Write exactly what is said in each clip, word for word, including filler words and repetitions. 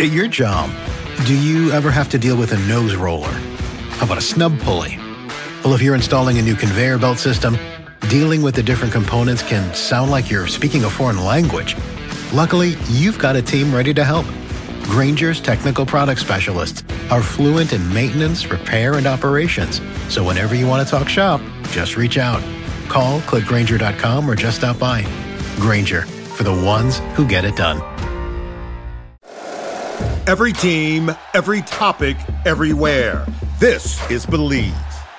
At your job, do you ever have to deal with a nose roller? How about a snub pulley? Well, if you're installing a new conveyor belt system, dealing with the different components can sound like you're speaking a foreign language. Luckily, you've got a team ready to help. Grainger's technical product specialists are fluent in maintenance, repair, and operations. So whenever you want to talk shop, just reach out. Call, click Grainger dot com, or just stop by. Grainger, for the ones who get it done. Every team, every topic, everywhere. This is Believe.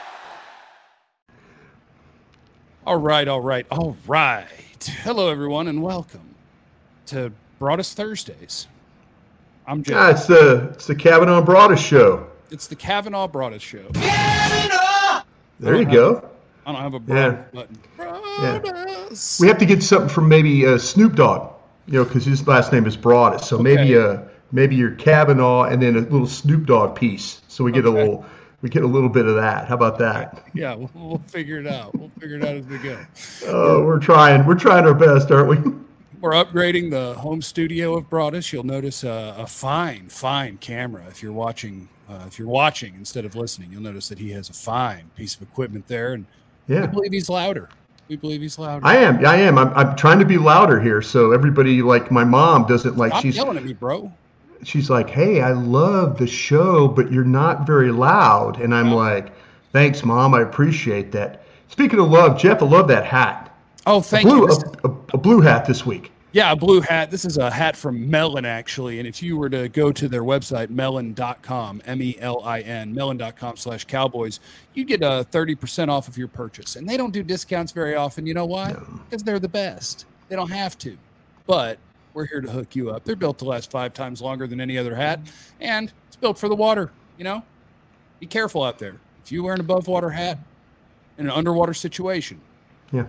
All right, all right, all right. Hello, everyone, and welcome to Broadus Thursdays. I'm Jeff. Ah, it's the it's the Kavanaugh Broadus show. It's the Kavanaugh Broadus show. Kavanaugh! There you go. A, I don't have a Broadus yeah. button. Broadus. Yeah. We have to get something from maybe uh, Snoop Dogg, you know, because his last name is Broadus. So okay. maybe uh maybe your Kavanaugh and then a little Snoop Dogg piece. So we get okay. a little we get a little bit of that. How about that? Yeah, we'll, we'll figure it out. We'll figure it out as we go. Oh, we're trying. We're trying our best, aren't we? We're upgrading the home studio of Broadus. You'll notice a, a fine, fine camera. If you're watching, uh, if you're watching instead of listening, you'll notice that he has a fine piece of equipment there, and yeah. we believe he's louder. We believe he's louder. I am. I am. I'm, I'm trying to be louder here, so everybody, like my mom, doesn't like. Stop she's yelling at me, bro. She's like, "Hey, I love the show, but you're not very loud." And I'm yeah. like, "Thanks, Mom. I appreciate that." Speaking of love, Jeff, I love that hat. Oh, thank a blue, you. A, a, a blue hat this week. Yeah, a blue hat. This is a hat from Melon, actually. And if you were to go to their website, melon dot com, M E L I N, melon dot com slash cowboys, you get a thirty percent off of your purchase. And they don't do discounts very often. You know why? No. Because they're the best. They don't have to. But we're here to hook you up. They're built to last five times longer than any other hat. And it's built for the water, you know? Be careful out there. If you wear an above water hat in an underwater situation, yeah,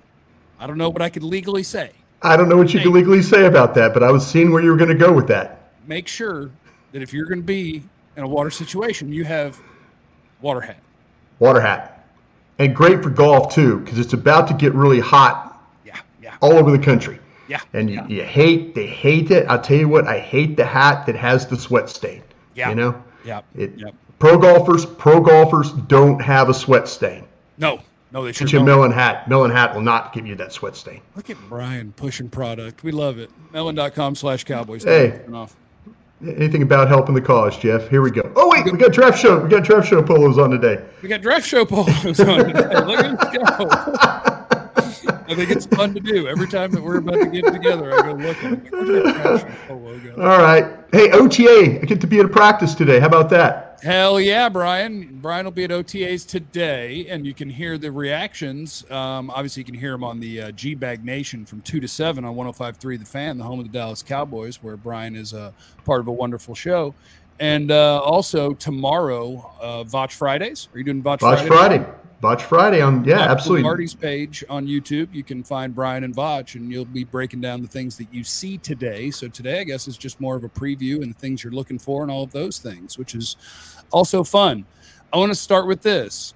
I don't know what I could legally say. I don't know what you can legally say about that, but I was seeing where you were going to go with that. Make sure that if you're going to be in a water situation, you have water hat. Water hat. And great for golf, too, because it's about to get really hot yeah, yeah. all over the country. Yeah. And you, yeah. you hate, they hate it. I'll tell you what, I hate the hat that has the sweat stain. Yeah. You know? Yeah. It, yep. Pro golfers, pro golfers don't have a sweat stain. No. No, they should. Get your Melon hat. Melon hat will not give you that sweat stain. Look at Brian pushing product. We love it. melon dot com slash cowboys. Hey, anything about helping the cause, Jeff? Here we go. Oh, wait, we got draft show. We got draft show polos on today. We got draft show polos on today. Look at us go. I think it's fun to do. Every time that we're about to get together, I go look at it. Where did that draft show polo go? All right. Hey, O T A, I get to be at a practice today. How about that? Hell yeah, Brian. Brian will be at O T As today, and you can hear the reactions. Um, obviously, you can hear them on the uh, G-Bag Nation from two to seven on one oh five point three The Fan, the home of the Dallas Cowboys, where Brian is a uh, part of a wonderful show. And uh, also tomorrow, uh, Votch Fridays. Are you doing Votch, Votch Friday? Friday. Votch Friday on, yeah, Votch absolutely. Marty's page on YouTube, you can find Brian and Votch, and you'll be breaking down the things that you see today. So today, I guess, is just more of a preview and the things you're looking for and all of those things, which is also fun. I want to start with this.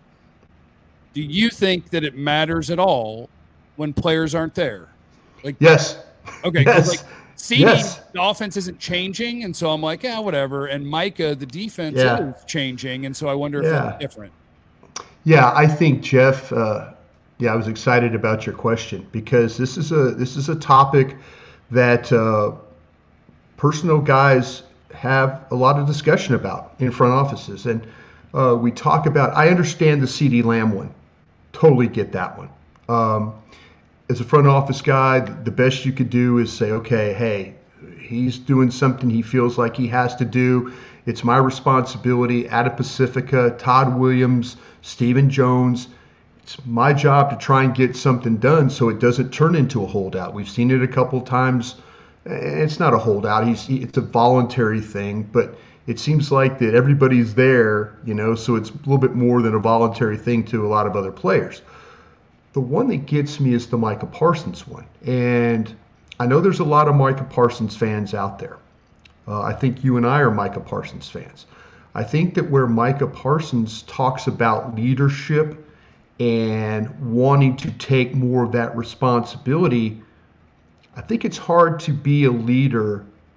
Do you think that it matters at all when players aren't there? Like, yes. Okay. Yes. Like, C D, yes. the offense isn't changing, and so I'm like, yeah, whatever. And Micah, the defense yeah. is changing, and so I wonder if yeah. that's different. Yeah, I think, Jeff, uh, yeah, I was excited about your question because this is a this is a topic that uh, personnel guys have a lot of discussion about in front offices. And uh, we talk about, I understand the CeeDee Lamb one. Totally get that one. Um, as a front office guy, the best you could do is say, okay, hey, he's doing something he feels like he has to do. It's my responsibility. Ada Pacifica, Todd Williams, Stephen Jones. It's my job to try and get something done so it doesn't turn into a holdout. We've seen it a couple of times. It's not a holdout. He's, it's a voluntary thing, but it seems like that everybody's there, you know, so it's a little bit more than a voluntary thing to a lot of other players. The one that gets me is the Micah Parsons one. And I know there's a lot of Micah Parsons fans out there. Uh, I think you and I are Micah Parsons fans. I think that where Micah Parsons talks about leadership and wanting to take more of that responsibility, I think it's hard to be a leader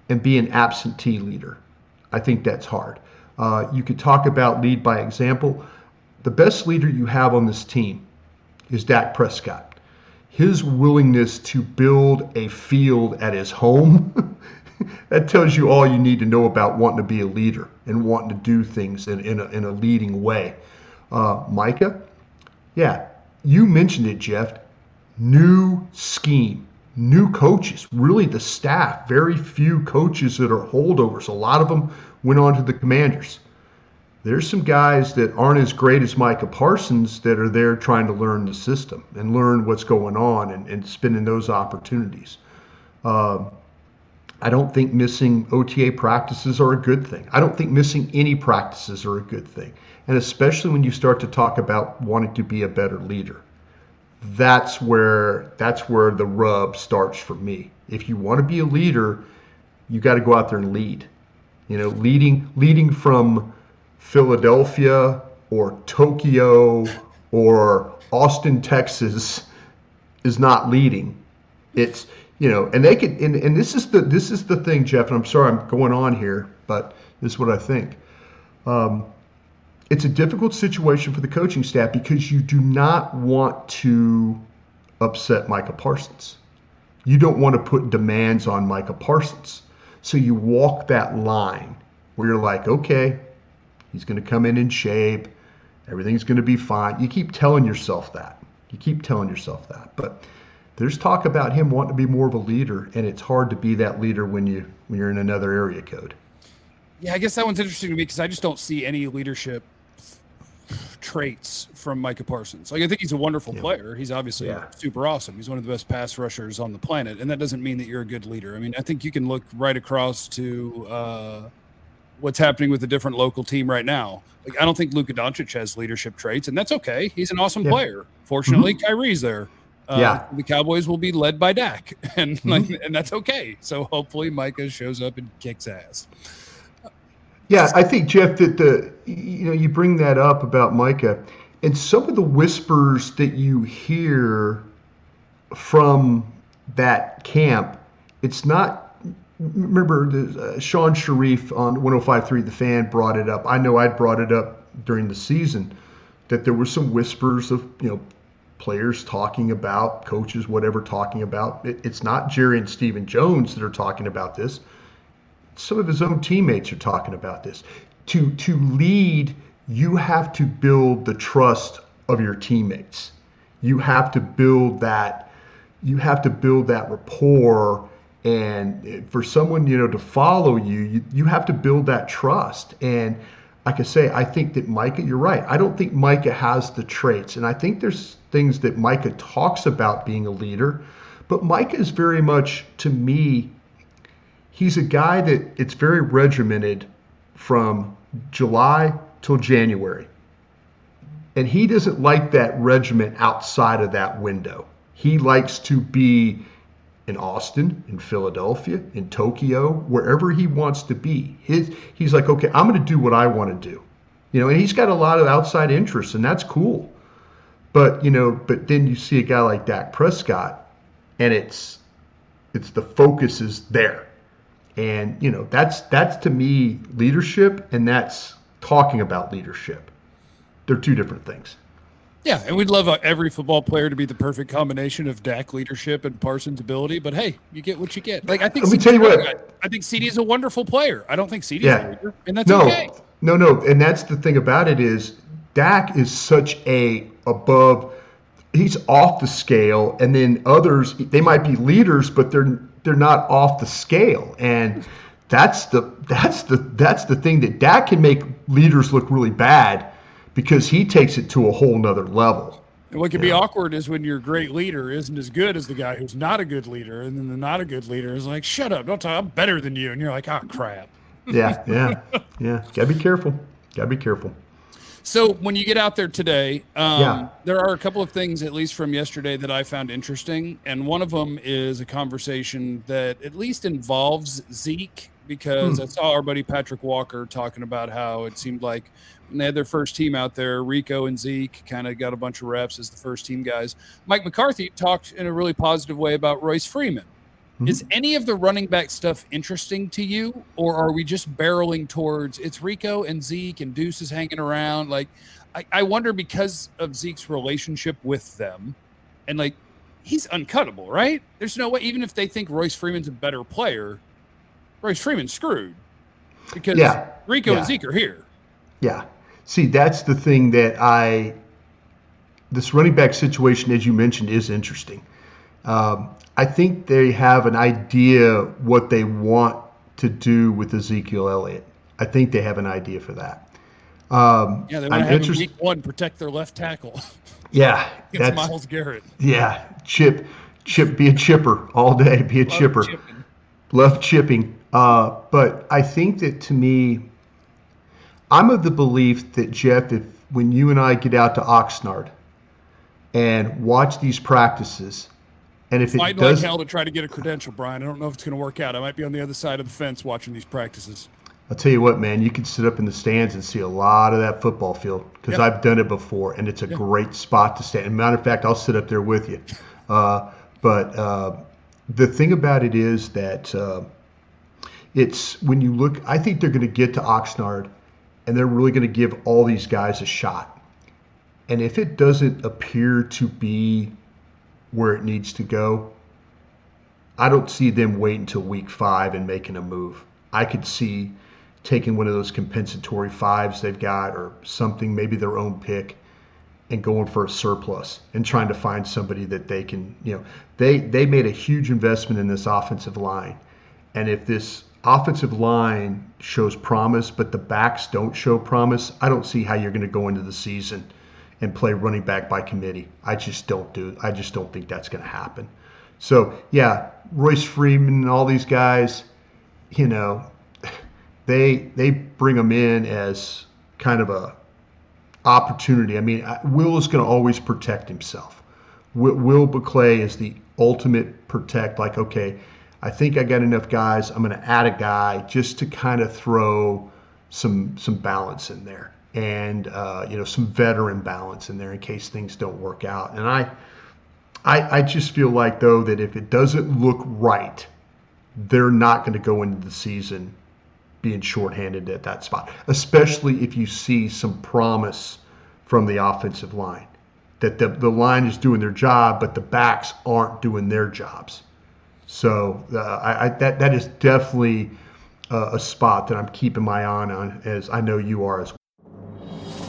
and be an absentee leader. I think that's hard. Uh, you could talk about lead by example. The best leader you have on this team is Dak Prescott. His willingness to build a field at his home, that tells you all you need to know about wanting to be a leader and wanting to do things in, in, a, in a leading way. Uh, Micah, yeah, you mentioned it, Jeff. New scheme, new coaches, really the staff, very few coaches that are holdovers. A lot of them went on to the Commanders. There's some guys that aren't as great as Micah Parsons that are there trying to learn the system and learn what's going on and, and spending those opportunities. Um, I don't think missing O T A practices are a good thing. I don't think missing any practices are a good thing. And especially when you start to talk about wanting to be a better leader. That's where that's where the rub starts for me. If you want to be a leader, you got to go out there and lead. You know, leading leading from Philadelphia or Tokyo or Austin, Texas is not leading. It's, you know, and they could, and, and this is the this is the thing, Jeff, and I'm sorry I'm going on here, but this is what I think. Um, it's a difficult situation for the coaching staff because you do not want to upset Micah Parsons. You don't want to put demands on Micah Parsons. So you walk that line where you're like, okay, he's going to come in in shape. Everything's going to be fine. You keep telling yourself that. You keep telling yourself that. But there's talk about him wanting to be more of a leader, and it's hard to be that leader when you when you're in another area code. Yeah, I guess that one's interesting to me because I just don't see any leadership traits from Micah Parsons. Like, I think he's a wonderful yeah. player. He's obviously yeah. super awesome. He's one of the best pass rushers on the planet, and that doesn't mean that you're a good leader. I mean, I think you can look right across to uh, what's happening with a different local team right now. Like, I don't think Luka Doncic has leadership traits, and that's okay. He's an awesome yeah. player. Fortunately, mm-hmm. Kyrie's there. Uh, yeah. The Cowboys will be led by Dak, and mm-hmm. like, and that's okay. So hopefully Micah shows up and kicks ass. Yeah, I think, Jeff, that the you know you bring that up about Micah, and some of the whispers that you hear from that camp, it's not. Remember, the, uh, Sean Sharif on one oh five point three The Fan brought it up. I know I brought it up during the season that there were some whispers of you know players talking about, coaches, whatever, talking about. It, it's not Jerry and Stephen Jones that are talking about this. Some of his own teammates are talking about this. To to lead, you have to build the trust of your teammates. You have to build that. You have to build that rapport, and for someone you know to follow you, you, you have to build that trust. And like I say, I think that Micah, you're right. I don't think Micah has the traits, and I think there's things that Micah talks about being a leader, but Micah is very much, to me, he's a guy that it's very regimented from July till January. And he doesn't like that regiment outside of that window. He likes to be in Austin, in Philadelphia, in Tokyo, wherever he wants to be. His, he's like, okay, I'm going to do what I want to do. You know, and he's got a lot of outside interests, and that's cool. But, you know, but then you see a guy like Dak Prescott, and it's it's the focus is there. And, you know, that's that's to me leadership, and that's talking about leadership. They're two different things. Yeah, and we'd love uh, every football player to be the perfect combination of Dak leadership and Parsons' ability, but hey, you get what you get. Like I think Let me C D, tell you what. I think C D is a wonderful player. I don't think C D's Yeah. a leader, and that's No, okay. no, no. And that's the thing about it is Dak is such a above he's off the scale, and then others, they might be leaders, but they're they're not off the scale. And that's the that's the that's the thing that Dak can make leaders look really bad because he takes it to a whole nother level. And what can be awkward is when your great leader isn't as good as the guy who's not a good leader, and then the not a good leader is like, shut up, don't talk, I'm better than you. And you're like, oh, crap. Yeah, yeah, yeah. Gotta be careful. Gotta be careful. So when you get out there today, um, Yeah. there are a couple of things, at least from yesterday, that I found interesting. And one of them is a conversation that at least involves Zeke, because Hmm. I saw our buddy Patrick Walker talking about how it seemed like when they had their first team out there, Rico and Zeke kind of got a bunch of reps as the first team guys. Mike McCarthy talked in a really positive way about Royce Freeman. Mm-hmm. Is any of the running back stuff interesting to you, or are we just barreling towards it's Rico and Zeke and Deuce is hanging around? Like, I, I wonder because of Zeke's relationship with them, and like he's uncuttable, right? There's no way, even if they think Royce Freeman's a better player, Royce Freeman's screwed because yeah. Rico yeah. and Zeke are here. Yeah. See, that's the thing that I, this running back situation, as you mentioned, is interesting. Um, I think they have an idea what they want to do with Ezekiel Elliott. I think they have an idea for that. Um, yeah, they want to have him week one protect their left tackle. Yeah. Against Myles Garrett. Yeah. Chip, chip, be a chipper all day. Be a Love chipper. Chipping. Love chipping. Uh, but I think that to me, I'm of the belief that, Jeff, if when you and I get out to Oxnard and watch these practices, and if I'd it does, like hell to try to get a credential, Brian. I don't know if it's going to work out. I might be on the other side of the fence watching these practices. I'll tell you what, man, you can sit up in the stands and see a lot of that football field because yep. I've done it before, and it's a yep. great spot to stand. As a matter of fact, I'll sit up there with you. Uh, but uh, the thing about it is that uh, it's when you look, I think they're going to get to Oxnard, and they're really going to give all these guys a shot. And if it doesn't appear to be where it needs to go, I don't see them waiting until week five and making a move. I could see taking one of those compensatory fives they've got or something, maybe their own pick, and going for a surplus and trying to find somebody that they can, you know, they, they made a huge investment in this offensive line. And if this offensive line shows promise, but the backs don't show promise, I don't see how you're going to go into the season and play running back by committee. I just don't do. I just don't think that's going to happen. So yeah, Royce Freeman and all these guys, you know, they they bring them in as kind of a opportunity. I mean, Will is going to always protect himself. Will, Will Buckley is the ultimate protect. Like, okay, I think I got enough guys. I'm going to add a guy just to kind of throw some some balance in there, and uh, you know, some veteran balance in there in case things don't work out. And I, I, I just feel like though that if it doesn't look right, they're not going to go into the season being shorthanded at that spot, especially if you see some promise from the offensive line that the the line is doing their job, but the backs aren't doing their jobs. So uh, I, I, that that is definitely uh, a spot that I'm keeping my eye on, as I know you are as well.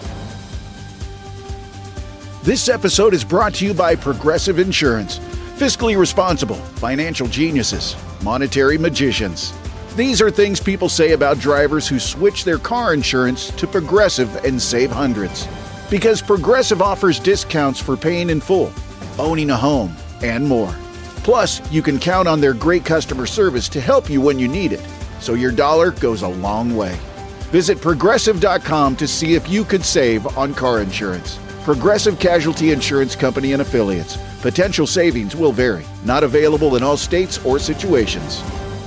This episode is brought to you by Progressive Insurance. Fiscally responsible, financial geniuses, monetary magicians. These are things people say about drivers who switch their car insurance to Progressive and save hundreds. Because Progressive offers discounts for paying in full, owning a home, and more. Plus, you can count on their great customer service to help you when you need it, so your dollar goes a long way. Visit Progressive dot com to see if you could save on car insurance. Progressive Casualty Insurance Company and Affiliates. Potential savings will vary. Not available in all states or situations.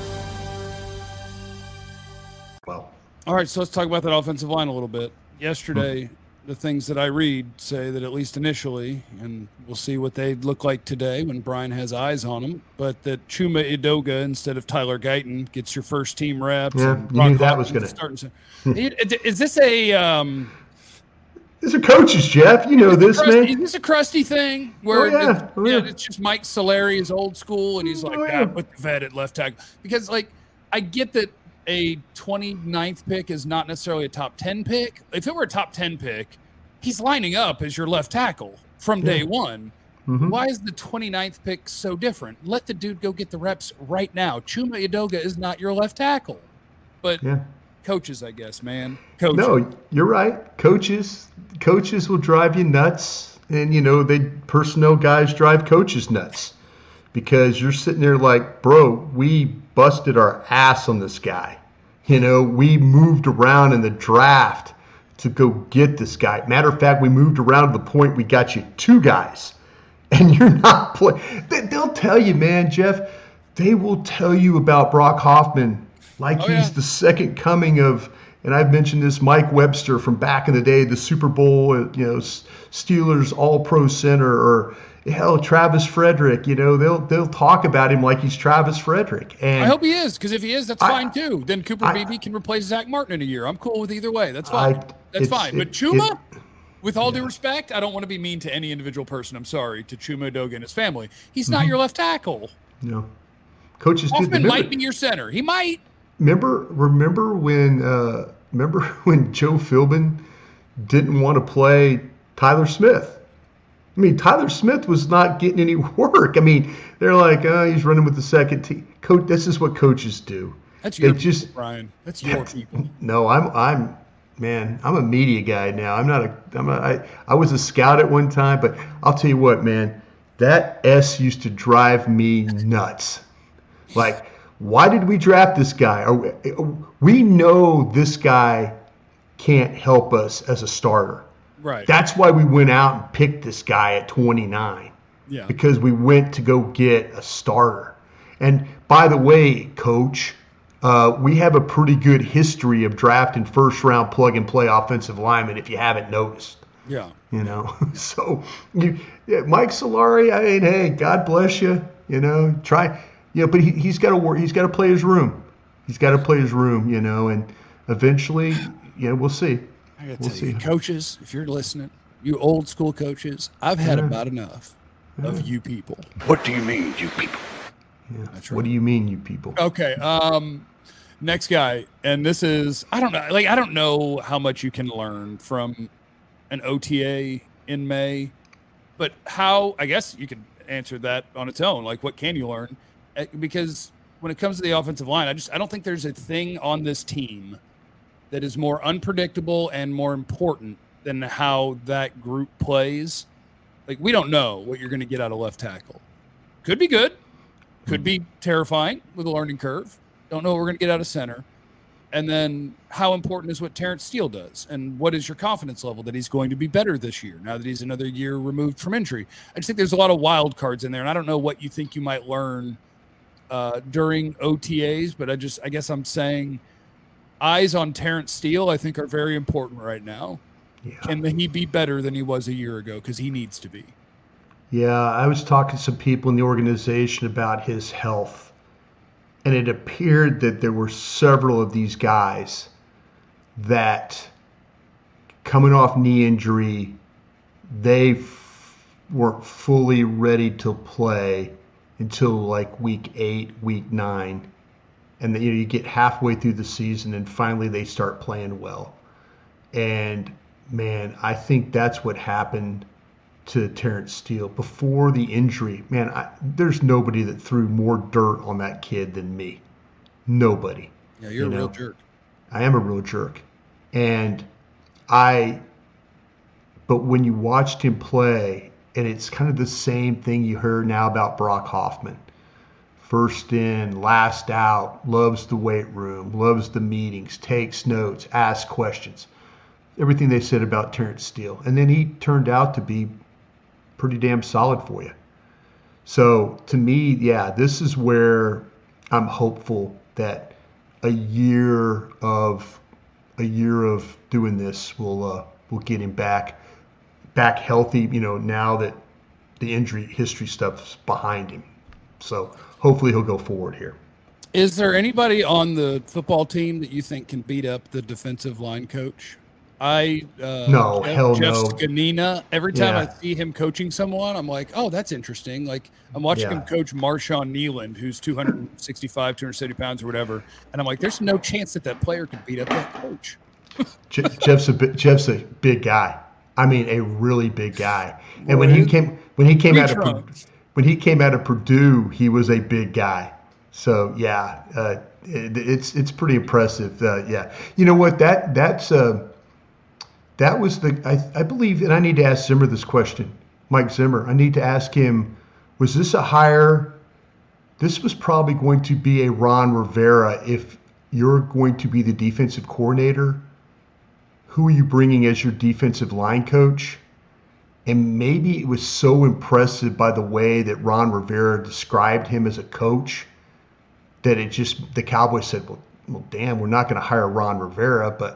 Well, all right, so let's talk about that offensive line a little bit. Yesterday, hmm. the things that I read say that at least initially, and we'll see what they look like today when Brian has eyes on them, but that Chuma Edoga instead of Tyler Guyton gets your first team reps. Yeah, and you knew that was going to start. Is this a um, These are coaches, Jeff. You know this, crusty, man. Is this a crusty thing where oh, yeah. It's, oh, yeah. yeah, it's just Mike Solari is old school and he's like, oh, yeah. yeah. put the vet at left tackle? Because, like, I get that a twenty-ninth pick is not necessarily a top ten pick. If it were a top ten pick, he's lining up as your left tackle from day yeah. one. Mm-hmm. Why is the twenty-ninth pick so different? Let the dude go get the reps right now. Chuma Edoga is not your left tackle. But yeah. coaches, I guess, man. Coaches. No, you're right. Coaches, coaches will drive you nuts. And, you know, they personnel guys drive coaches nuts. Because you're sitting there like, bro, we busted our ass on this guy. You know, we moved around in the draft to go get this guy. Matter of fact, we moved around to the point we got you two guys. And you're not playing. They'll tell you, man, Jeff, they will tell you about Brock Hoffman like oh, he's yeah. the second coming of, and I've mentioned this, Mike Webster from back in the day, the Super Bowl, you know, Steelers All-Pro center, or hell, Travis Frederick, you know, they'll they'll talk about him like he's Travis Frederick. And I hope he is, because if he is, that's I, fine too. Then Cooper I, Beebe can replace Zach Martin in a year. I'm cool with either way. That's fine. I, that's fine. But it, Chuma, it, with all yeah. due respect, I don't want to be mean to any individual person. I'm sorry to Chuma Edoga and his family. He's not mm-hmm. your left tackle. No, coaches Hoffman did. might be your center. He might. Remember, remember when, uh, remember when Joe Philbin didn't want to play Tyler Smith? I mean, Tyler Smith was not getting any work. I mean, they're like, oh, he's running with the second team. Coach, this is what coaches do. That's your they just, people, Brian. That's your people. No, I'm, I'm, man, I'm a media guy now. I'm not a, I'm a, I, I was a scout at one time, but I'll tell you what, man, that S used to drive me nuts. Like, why did we draft this guy? We, we know this guy can't help us as a starter. Right. That's why we went out and picked this guy at twenty-nine. Yeah. Because we went to go get a starter. And by the way, Coach, uh, we have a pretty good history of drafting first-round plug-and-play offensive linemen, if you haven't noticed. Yeah. You know, so you, yeah, Mike Solari, I mean, hey, God bless you. You know, try, you know, but he, he's got to work. He's got to play his room. He's got to play his room. You know, and eventually, you know, we'll see. I gotta we'll tell see. you, coaches, if you're listening, you old school coaches, I've had Yeah. about enough Yeah. of you people. What do you mean, you people? Yeah. That's right. What do you mean, you people? Okay. Um, next guy, and this is I don't know, like I don't know how much you can learn from an O T A in May, but how I guess you could answer that on its own. Like, what can you learn? Uh, Because when it comes to the offensive line, I just I don't think there's a thing on this team that is more unpredictable and more important than how that group plays. Like, we don't know what you're going to get out of left tackle. Could be good. Could be terrifying with a learning curve. Don't know what we're going to get out of center. And then how important is what Terrence Steele does? And what is your confidence level that he's going to be better this year now that he's another year removed from injury? I just think there's a lot of wild cards in there, and I don't know what you think you might learn uh, during O T As, but I just I guess I'm saying eyes on Terrence Steele I think are very important right now. Yeah. Can he be better than he was a year ago? Because he needs to be. Yeah, I was talking to some people in the organization about his health, and it appeared that there were several of these guys that, coming off knee injury, they f- weren't fully ready to play until like week eight, week nine. And then, you know, you get halfway through the season and finally they start playing well. And man, I think that's what happened to Terrence Steele before the injury. Man, I, there's nobody that threw more dirt on that kid than me. Nobody. Yeah, you're you a know? real jerk. I am a real jerk. And I, but when you watched him play, and it's kind of the same thing you heard now about Brock Hoffman. First in, last out, loves the weight room, loves the meetings, takes notes, asks questions. Everything they said about Terrence Steele. And then he turned out to be pretty damn solid for you. So to me, yeah, this is where I'm hopeful that a year of a year of doing this will uh, will get him back back healthy, you know, now that the injury history stuff's behind him. So hopefully he'll go forward here. Is there anybody on the football team that you think can beat up the defensive line coach? I uh, No, Jeff, hell Jeff no. Scanina, every time Yeah. I see him coaching someone, I'm like, oh, that's interesting. Like, I'm watching Yeah. him coach Marshawn Nealand, who's two sixty-five, two seventy pounds or whatever, and I'm like, there's no chance that that player could beat up that coach. Je- Jeff's a bi- Jeff's a big guy. I mean, a really big guy. And when he came when he came Three out of Pur- trunks. when he came out of Purdue, he was a big guy. So yeah, uh, it, it's it's pretty impressive. Uh, yeah, you know what? That that's uh, that was the I, I believe, and I need to ask Zimmer this question, Mike Zimmer. I need to ask him: was this a hire? This was probably going to be a Ron Rivera if you're going to be the defensive coordinator. Who are you bringing as your defensive line coach? And maybe it was so impressive by the way that Ron Rivera described him as a coach that it just, the Cowboys said, well, well damn, we're not going to hire Ron Rivera, but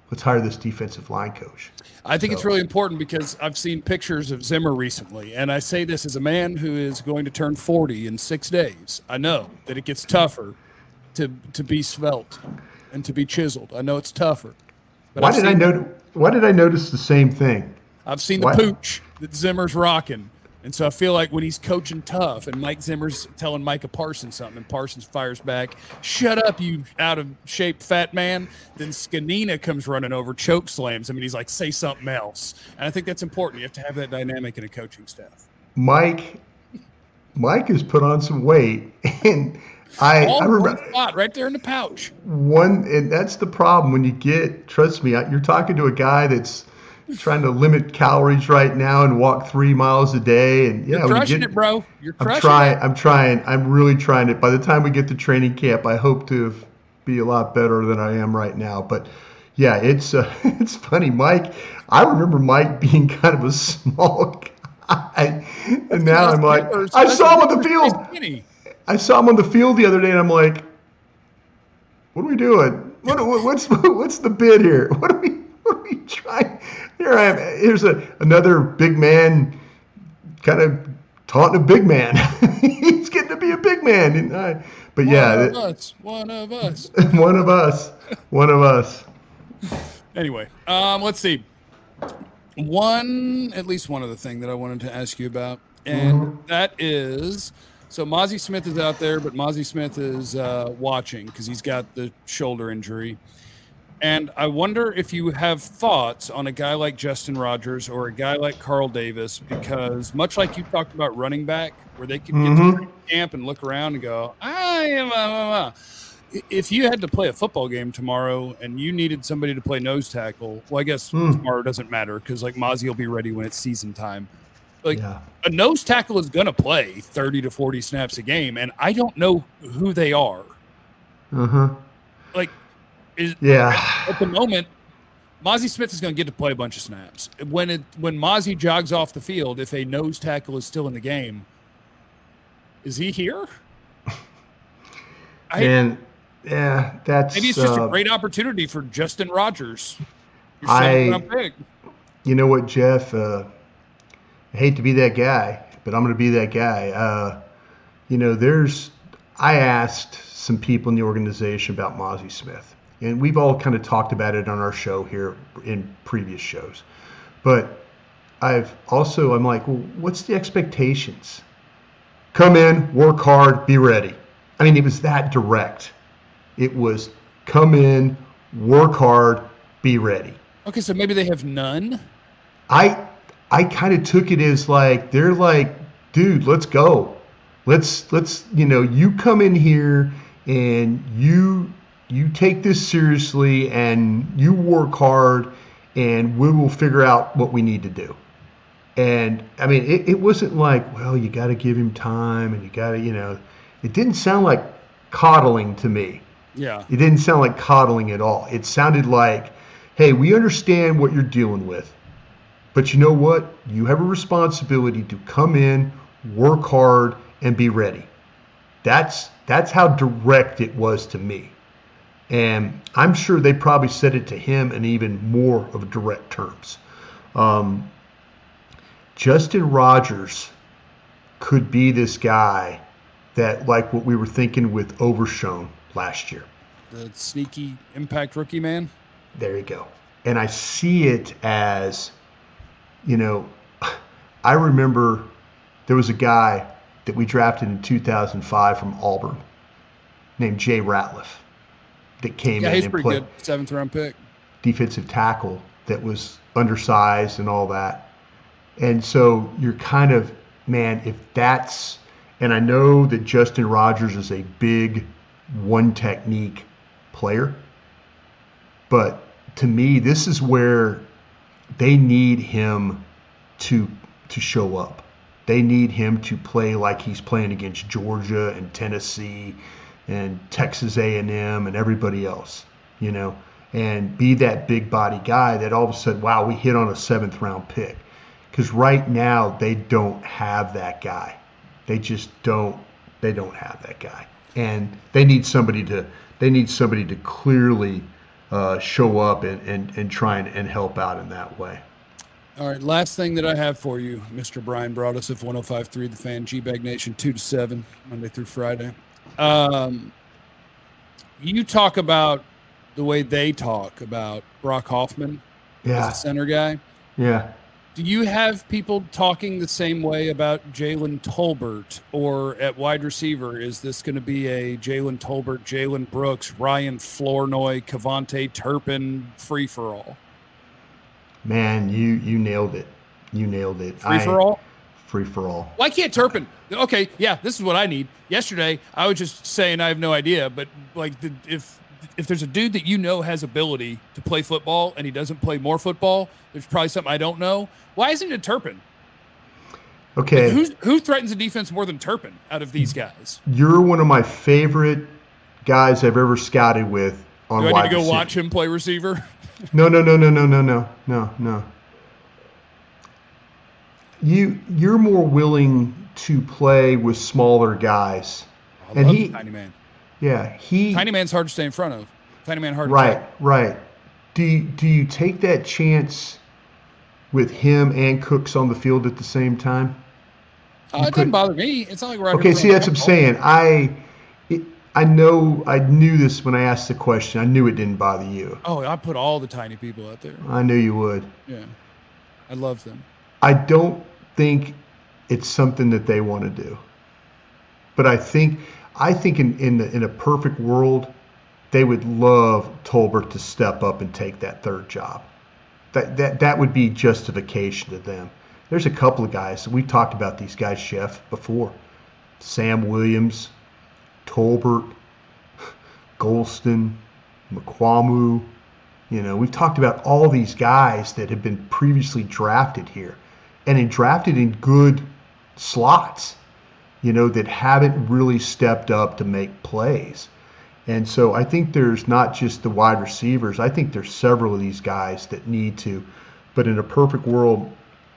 let's hire this defensive line coach. I think so. It's really important because I've seen pictures of Zimmer recently, and I say this as a man who is going to turn forty in six days. I know that it gets tougher to to be svelte and to be chiseled. I know it's tougher. But why I've did I notice? Why did I notice the same thing? I've seen the why? pooch that Zimmer's rocking. And so I feel like when he's coaching tough and Mike Zimmer's telling Micah Parsons something and Parsons fires back, shut up, you out of shape fat man, then Scanina comes running over, choke slams him, and he's like, say something else. And I think that's important. You have to have that dynamic in a coaching staff. Mike, Mike has put on some weight, and I, All I remember one spot right there in the pouch. One, and that's the problem when you get, trust me, you're talking to a guy that's trying to limit calories right now and walk three miles a day. And yeah, You're crushing you get, it, bro. You're crushing I'm trying, it. I'm trying. I'm really trying it. By the time we get to training camp, I hope to be a lot better than I am right now. But yeah, it's uh, it's funny, Mike. I remember Mike being kind of a small guy, and now I'm like, I saw him on the field. I saw him on the field the other day, and I'm like, what are we doing? What, what's what's the bid here? What are we what are we trying? Here I am. Here's a another big man, kind of taunting a big man. He's getting to be a big man, and I, but one yeah, of us, one of us, one of us, one of us. Anyway, um, let's see. One, at least one other thing that I wanted to ask you about, and mm-hmm. that is. So Mazi Smith is out there, but Mazi Smith is uh, watching because he's got the shoulder injury. And I wonder if you have thoughts on a guy like Justin Rogers or a guy like Carl Davis, because much like you talked about running back, where they could get mm-hmm. to camp and look around and go, I am, uh, if you had to play a football game tomorrow and you needed somebody to play nose tackle, well, I guess mm. tomorrow doesn't matter because like Mazi will be ready when it's season time. Like yeah. a nose tackle is going to play thirty to forty snaps a game, and I don't know who they are. Uh-huh. Like, is, yeah. at the moment, Mazi Smith is going to get to play a bunch of snaps. When it when Mazi jogs off the field, if a nose tackle is still in the game, is he here? I, and yeah, that's maybe it's just uh, a great opportunity for Justin Rogers. You're I, big. You know what, Jeff? Uh, I hate to be that guy, but I'm going to be that guy. Uh, you know, there's. I asked some people in the organization about Mazi Smith, and we've all kind of talked about it on our show here in previous shows. But I've also, I'm like, well, what's the expectations? Come in, work hard, be ready. I mean, it was that direct. It was come in, work hard, be ready. Okay, so maybe they have none. I I kind of took it as like they're like, dude, let's go. Let's let's you know, you come in here and you you take this seriously and you work hard and we will figure out what we need to do. And I mean, it, it wasn't like, well, you got to give him time and you got to, you know, it didn't sound like coddling to me. Yeah. It didn't sound like coddling at all. It sounded like, hey, we understand what you're dealing with, but you know what? You have a responsibility to come in, work hard, and be ready. That's that's how direct it was to me. And I'm sure they probably said it to him in even more of direct terms. Um, Justin Rogers could be this guy that, like what we were thinking with Overshown last year. The sneaky impact rookie man? There you go. And I see it as, you know, I remember there was a guy that we drafted in two thousand five from Auburn named Jay Ratliff that came yeah, in he's and pretty played good. Seventh round pick. Defensive tackle that was undersized and all that. And so you're kind of, man, if that's, and I know that Justin Rogers is a big one technique player, but to me, this is where they need him to to show up. They need him to play like he's playing against Georgia and Tennessee and Texas A and M and everybody else, you know, and be that big body guy that all of a sudden, wow, we hit on a seventh round pick. Because right now they don't have that guy. They just don't. They don't have that guy, and they need somebody to. They need somebody to clearly uh, show up and, and, and try and, and help out in that way. All right, last thing that I have for you, Mister Brian Broaddus of one oh five point three The Fan, G-Bag Nation, two to seven, Monday through Friday. Um, you talk about the way they talk about Brock Hoffman yeah. as a center guy. Yeah. Do you have people talking the same way about Jalen Tolbert, or at wide receiver, is this going to be a Jalen Tolbert, Jalen Brooks, Ryan Flournoy, Kevontae Turpin free-for-all? Man, you you nailed it. You nailed it. Free for all? Free for all. Why can't Turpin? Okay, yeah, this is what I need. Yesterday, I was just saying I have no idea, but like the, if if there's a dude that you know has ability to play football and he doesn't play more football, there's probably something I don't know. Why isn't it Turpin? Okay. Like, who's, who threatens the defense more than Turpin out of these guys? You're one of my favorite guys I've ever scouted with on Do I wide need to go receiver. watch him play receiver? No, no, no, no, no, no, no, no, no. You you're more willing to play with smaller guys, I and love he, Tiny Man. yeah, he. Tiny Man's hard to stay in front of. Tiny Man hard. Right, to play. right. Do you, do you take that chance with him and Cooks on the field at the same time? Uh, it doesn't bother me. It's not like we're out Okay, here see, that's what I'm saying. I. It, I know, I knew this when I asked the question. I knew it didn't bother you. Oh, I put all the tiny people out there. I knew you would. Yeah. I love them. I don't think it's something that they want to do. But I think I think in, in, the, in a perfect world, they would love Tolbert to step up and take that third job. That that that would be justification to them. There's a couple of guys. We've talked about these guys, Jeff, before. Sam Williams, Tolbert, Golston, McQuamu. You know, we've talked about all these guys that have been previously drafted here and in drafted in good slots, you know, that haven't really stepped up to make plays. And so I think there's not just the wide receivers. I think there's several of these guys that need to. But in a perfect world,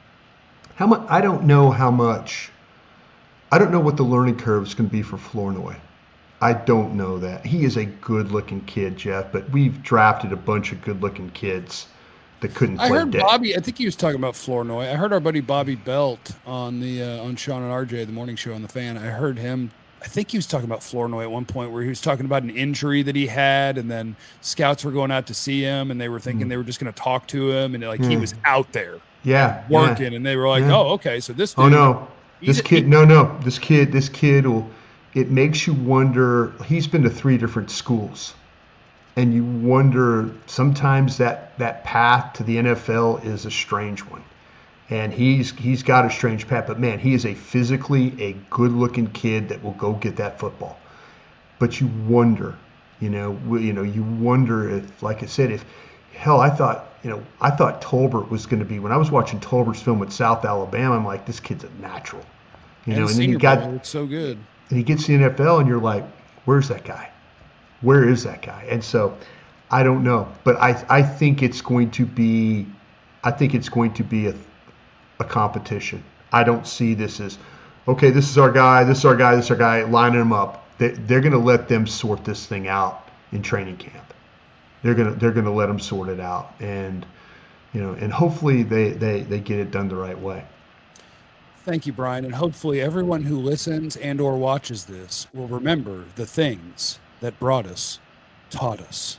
how much? I don't know how much. I don't know what the learning curve is going to be for Flournoy. I don't know that. He is a good-looking kid, Jeff, but we've drafted a bunch of good-looking kids that couldn't play. I heard dead. Bobby. I think he was talking about Flournoy. I heard our buddy Bobby Belt on the uh, on Sean and R J, the morning show on the Fan. I heard him. I think he was talking about Flournoy at one point, where he was talking about an injury that he had, and then scouts were going out to see him, and they were thinking mm. they were just going to talk to him, and like mm. he was out there, yeah, working, yeah. and they were like, yeah. "Oh, okay, so this." Dude, oh no, this a, kid, he, no, no, this kid, this kid will. It makes you wonder. He's been to three different schools, and you wonder sometimes that that path to the N F L is a strange one, and he's he's got a strange path. But man, he is a physically a good-looking kid that will go get that football. But you wonder, you know, you know, you wonder if, like I said, if hell, I thought, you know, I thought Tolbert was going to be when I was watching Tolbert's film at South Alabama. I'm like, this kid's a natural, you know, and then you got it's so good. And he gets to the N F L, and you're like, where's that guy? Where is that guy? And so I don't know. But I, I think it's going to be I think it's going to be a, a competition. I don't see this as, okay, this is our guy, this is our guy, this is our guy, lining them up. They, they're going to let them sort this thing out in training camp. They're going to they're going to let them sort it out. And, you know, and hopefully they, they, they get it done the right way. Thank you, Brian, and hopefully everyone who listens and or watches this will remember the things that brought us, taught us.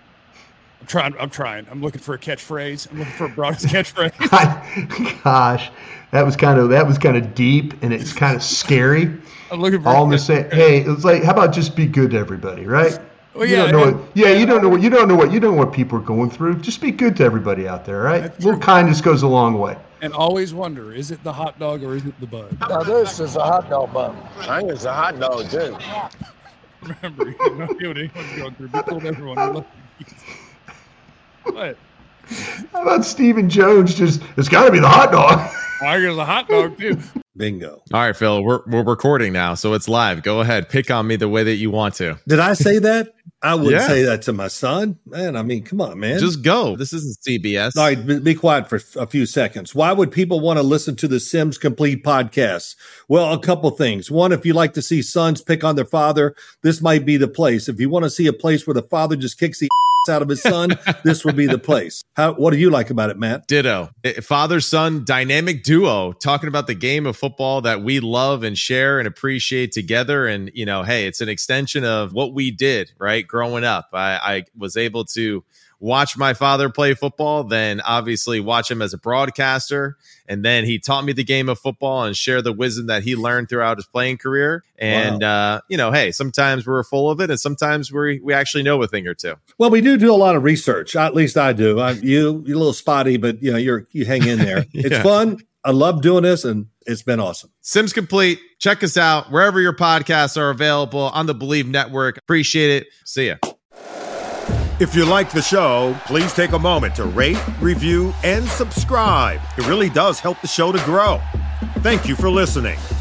I'm trying. I'm trying. I'm looking for a catchphrase. I'm looking for a broadest catchphrase. Gosh, that was kind of that was kind of deep, and it's kind of scary. I'm looking for all in the same. Hey, it's like, how about just be good to everybody, right? Well, you yeah, don't know and, what, yeah, you don't know what you don't know what you don't know what people are going through. Just be good to everybody out there, right? A little kindness goes a long way. And always wonder, is it the hot dog or is it the bun? Now this is a hot dog bun. I think it's a hot dog too. Remember, you know what anyone's going through. Be cool to everyone. What? How about Stephen Jones? Just it's got to be the hot dog. I guess a hot dog too. Bingo. All right, Phil, we're we're recording now, so it's live. Go ahead, pick on me the way that you want to. Did I say that? I wouldn't yeah. say that to my son. Man, I mean, come on, man. Just go. This isn't C B S. All right, be, be quiet for a few seconds. Why would people want to listen to the Sims Complete podcast? Well, a couple things. One, if you like to see sons pick on their father, this might be the place. If you want to see a place where the father just kicks the out of his son, this would be the place. How, what do you like about it, Matt? Ditto. Father-son dynamic duo talking about the game of football that we love and share and appreciate together. And, you know, hey, it's an extension of what we did, right? Growing up, I, I was able to watch my father play football, then obviously watch him as a broadcaster. And then he taught me the game of football and share the wisdom that he learned throughout his playing career. And, wow. uh, you know, hey, sometimes we're full of it and sometimes we we actually know a thing or two. Well, we do do a lot of research. At least I do. I, you, you're a little spotty, but, you know, you're you hang in there. It's yeah. fun. I love doing this, and it's been awesome. Sims Complete. Check us out wherever your podcasts are available on the Believe Network. Appreciate it. See ya. If you like the show, please take a moment to rate, review, and subscribe. It really does help the show to grow. Thank you for listening.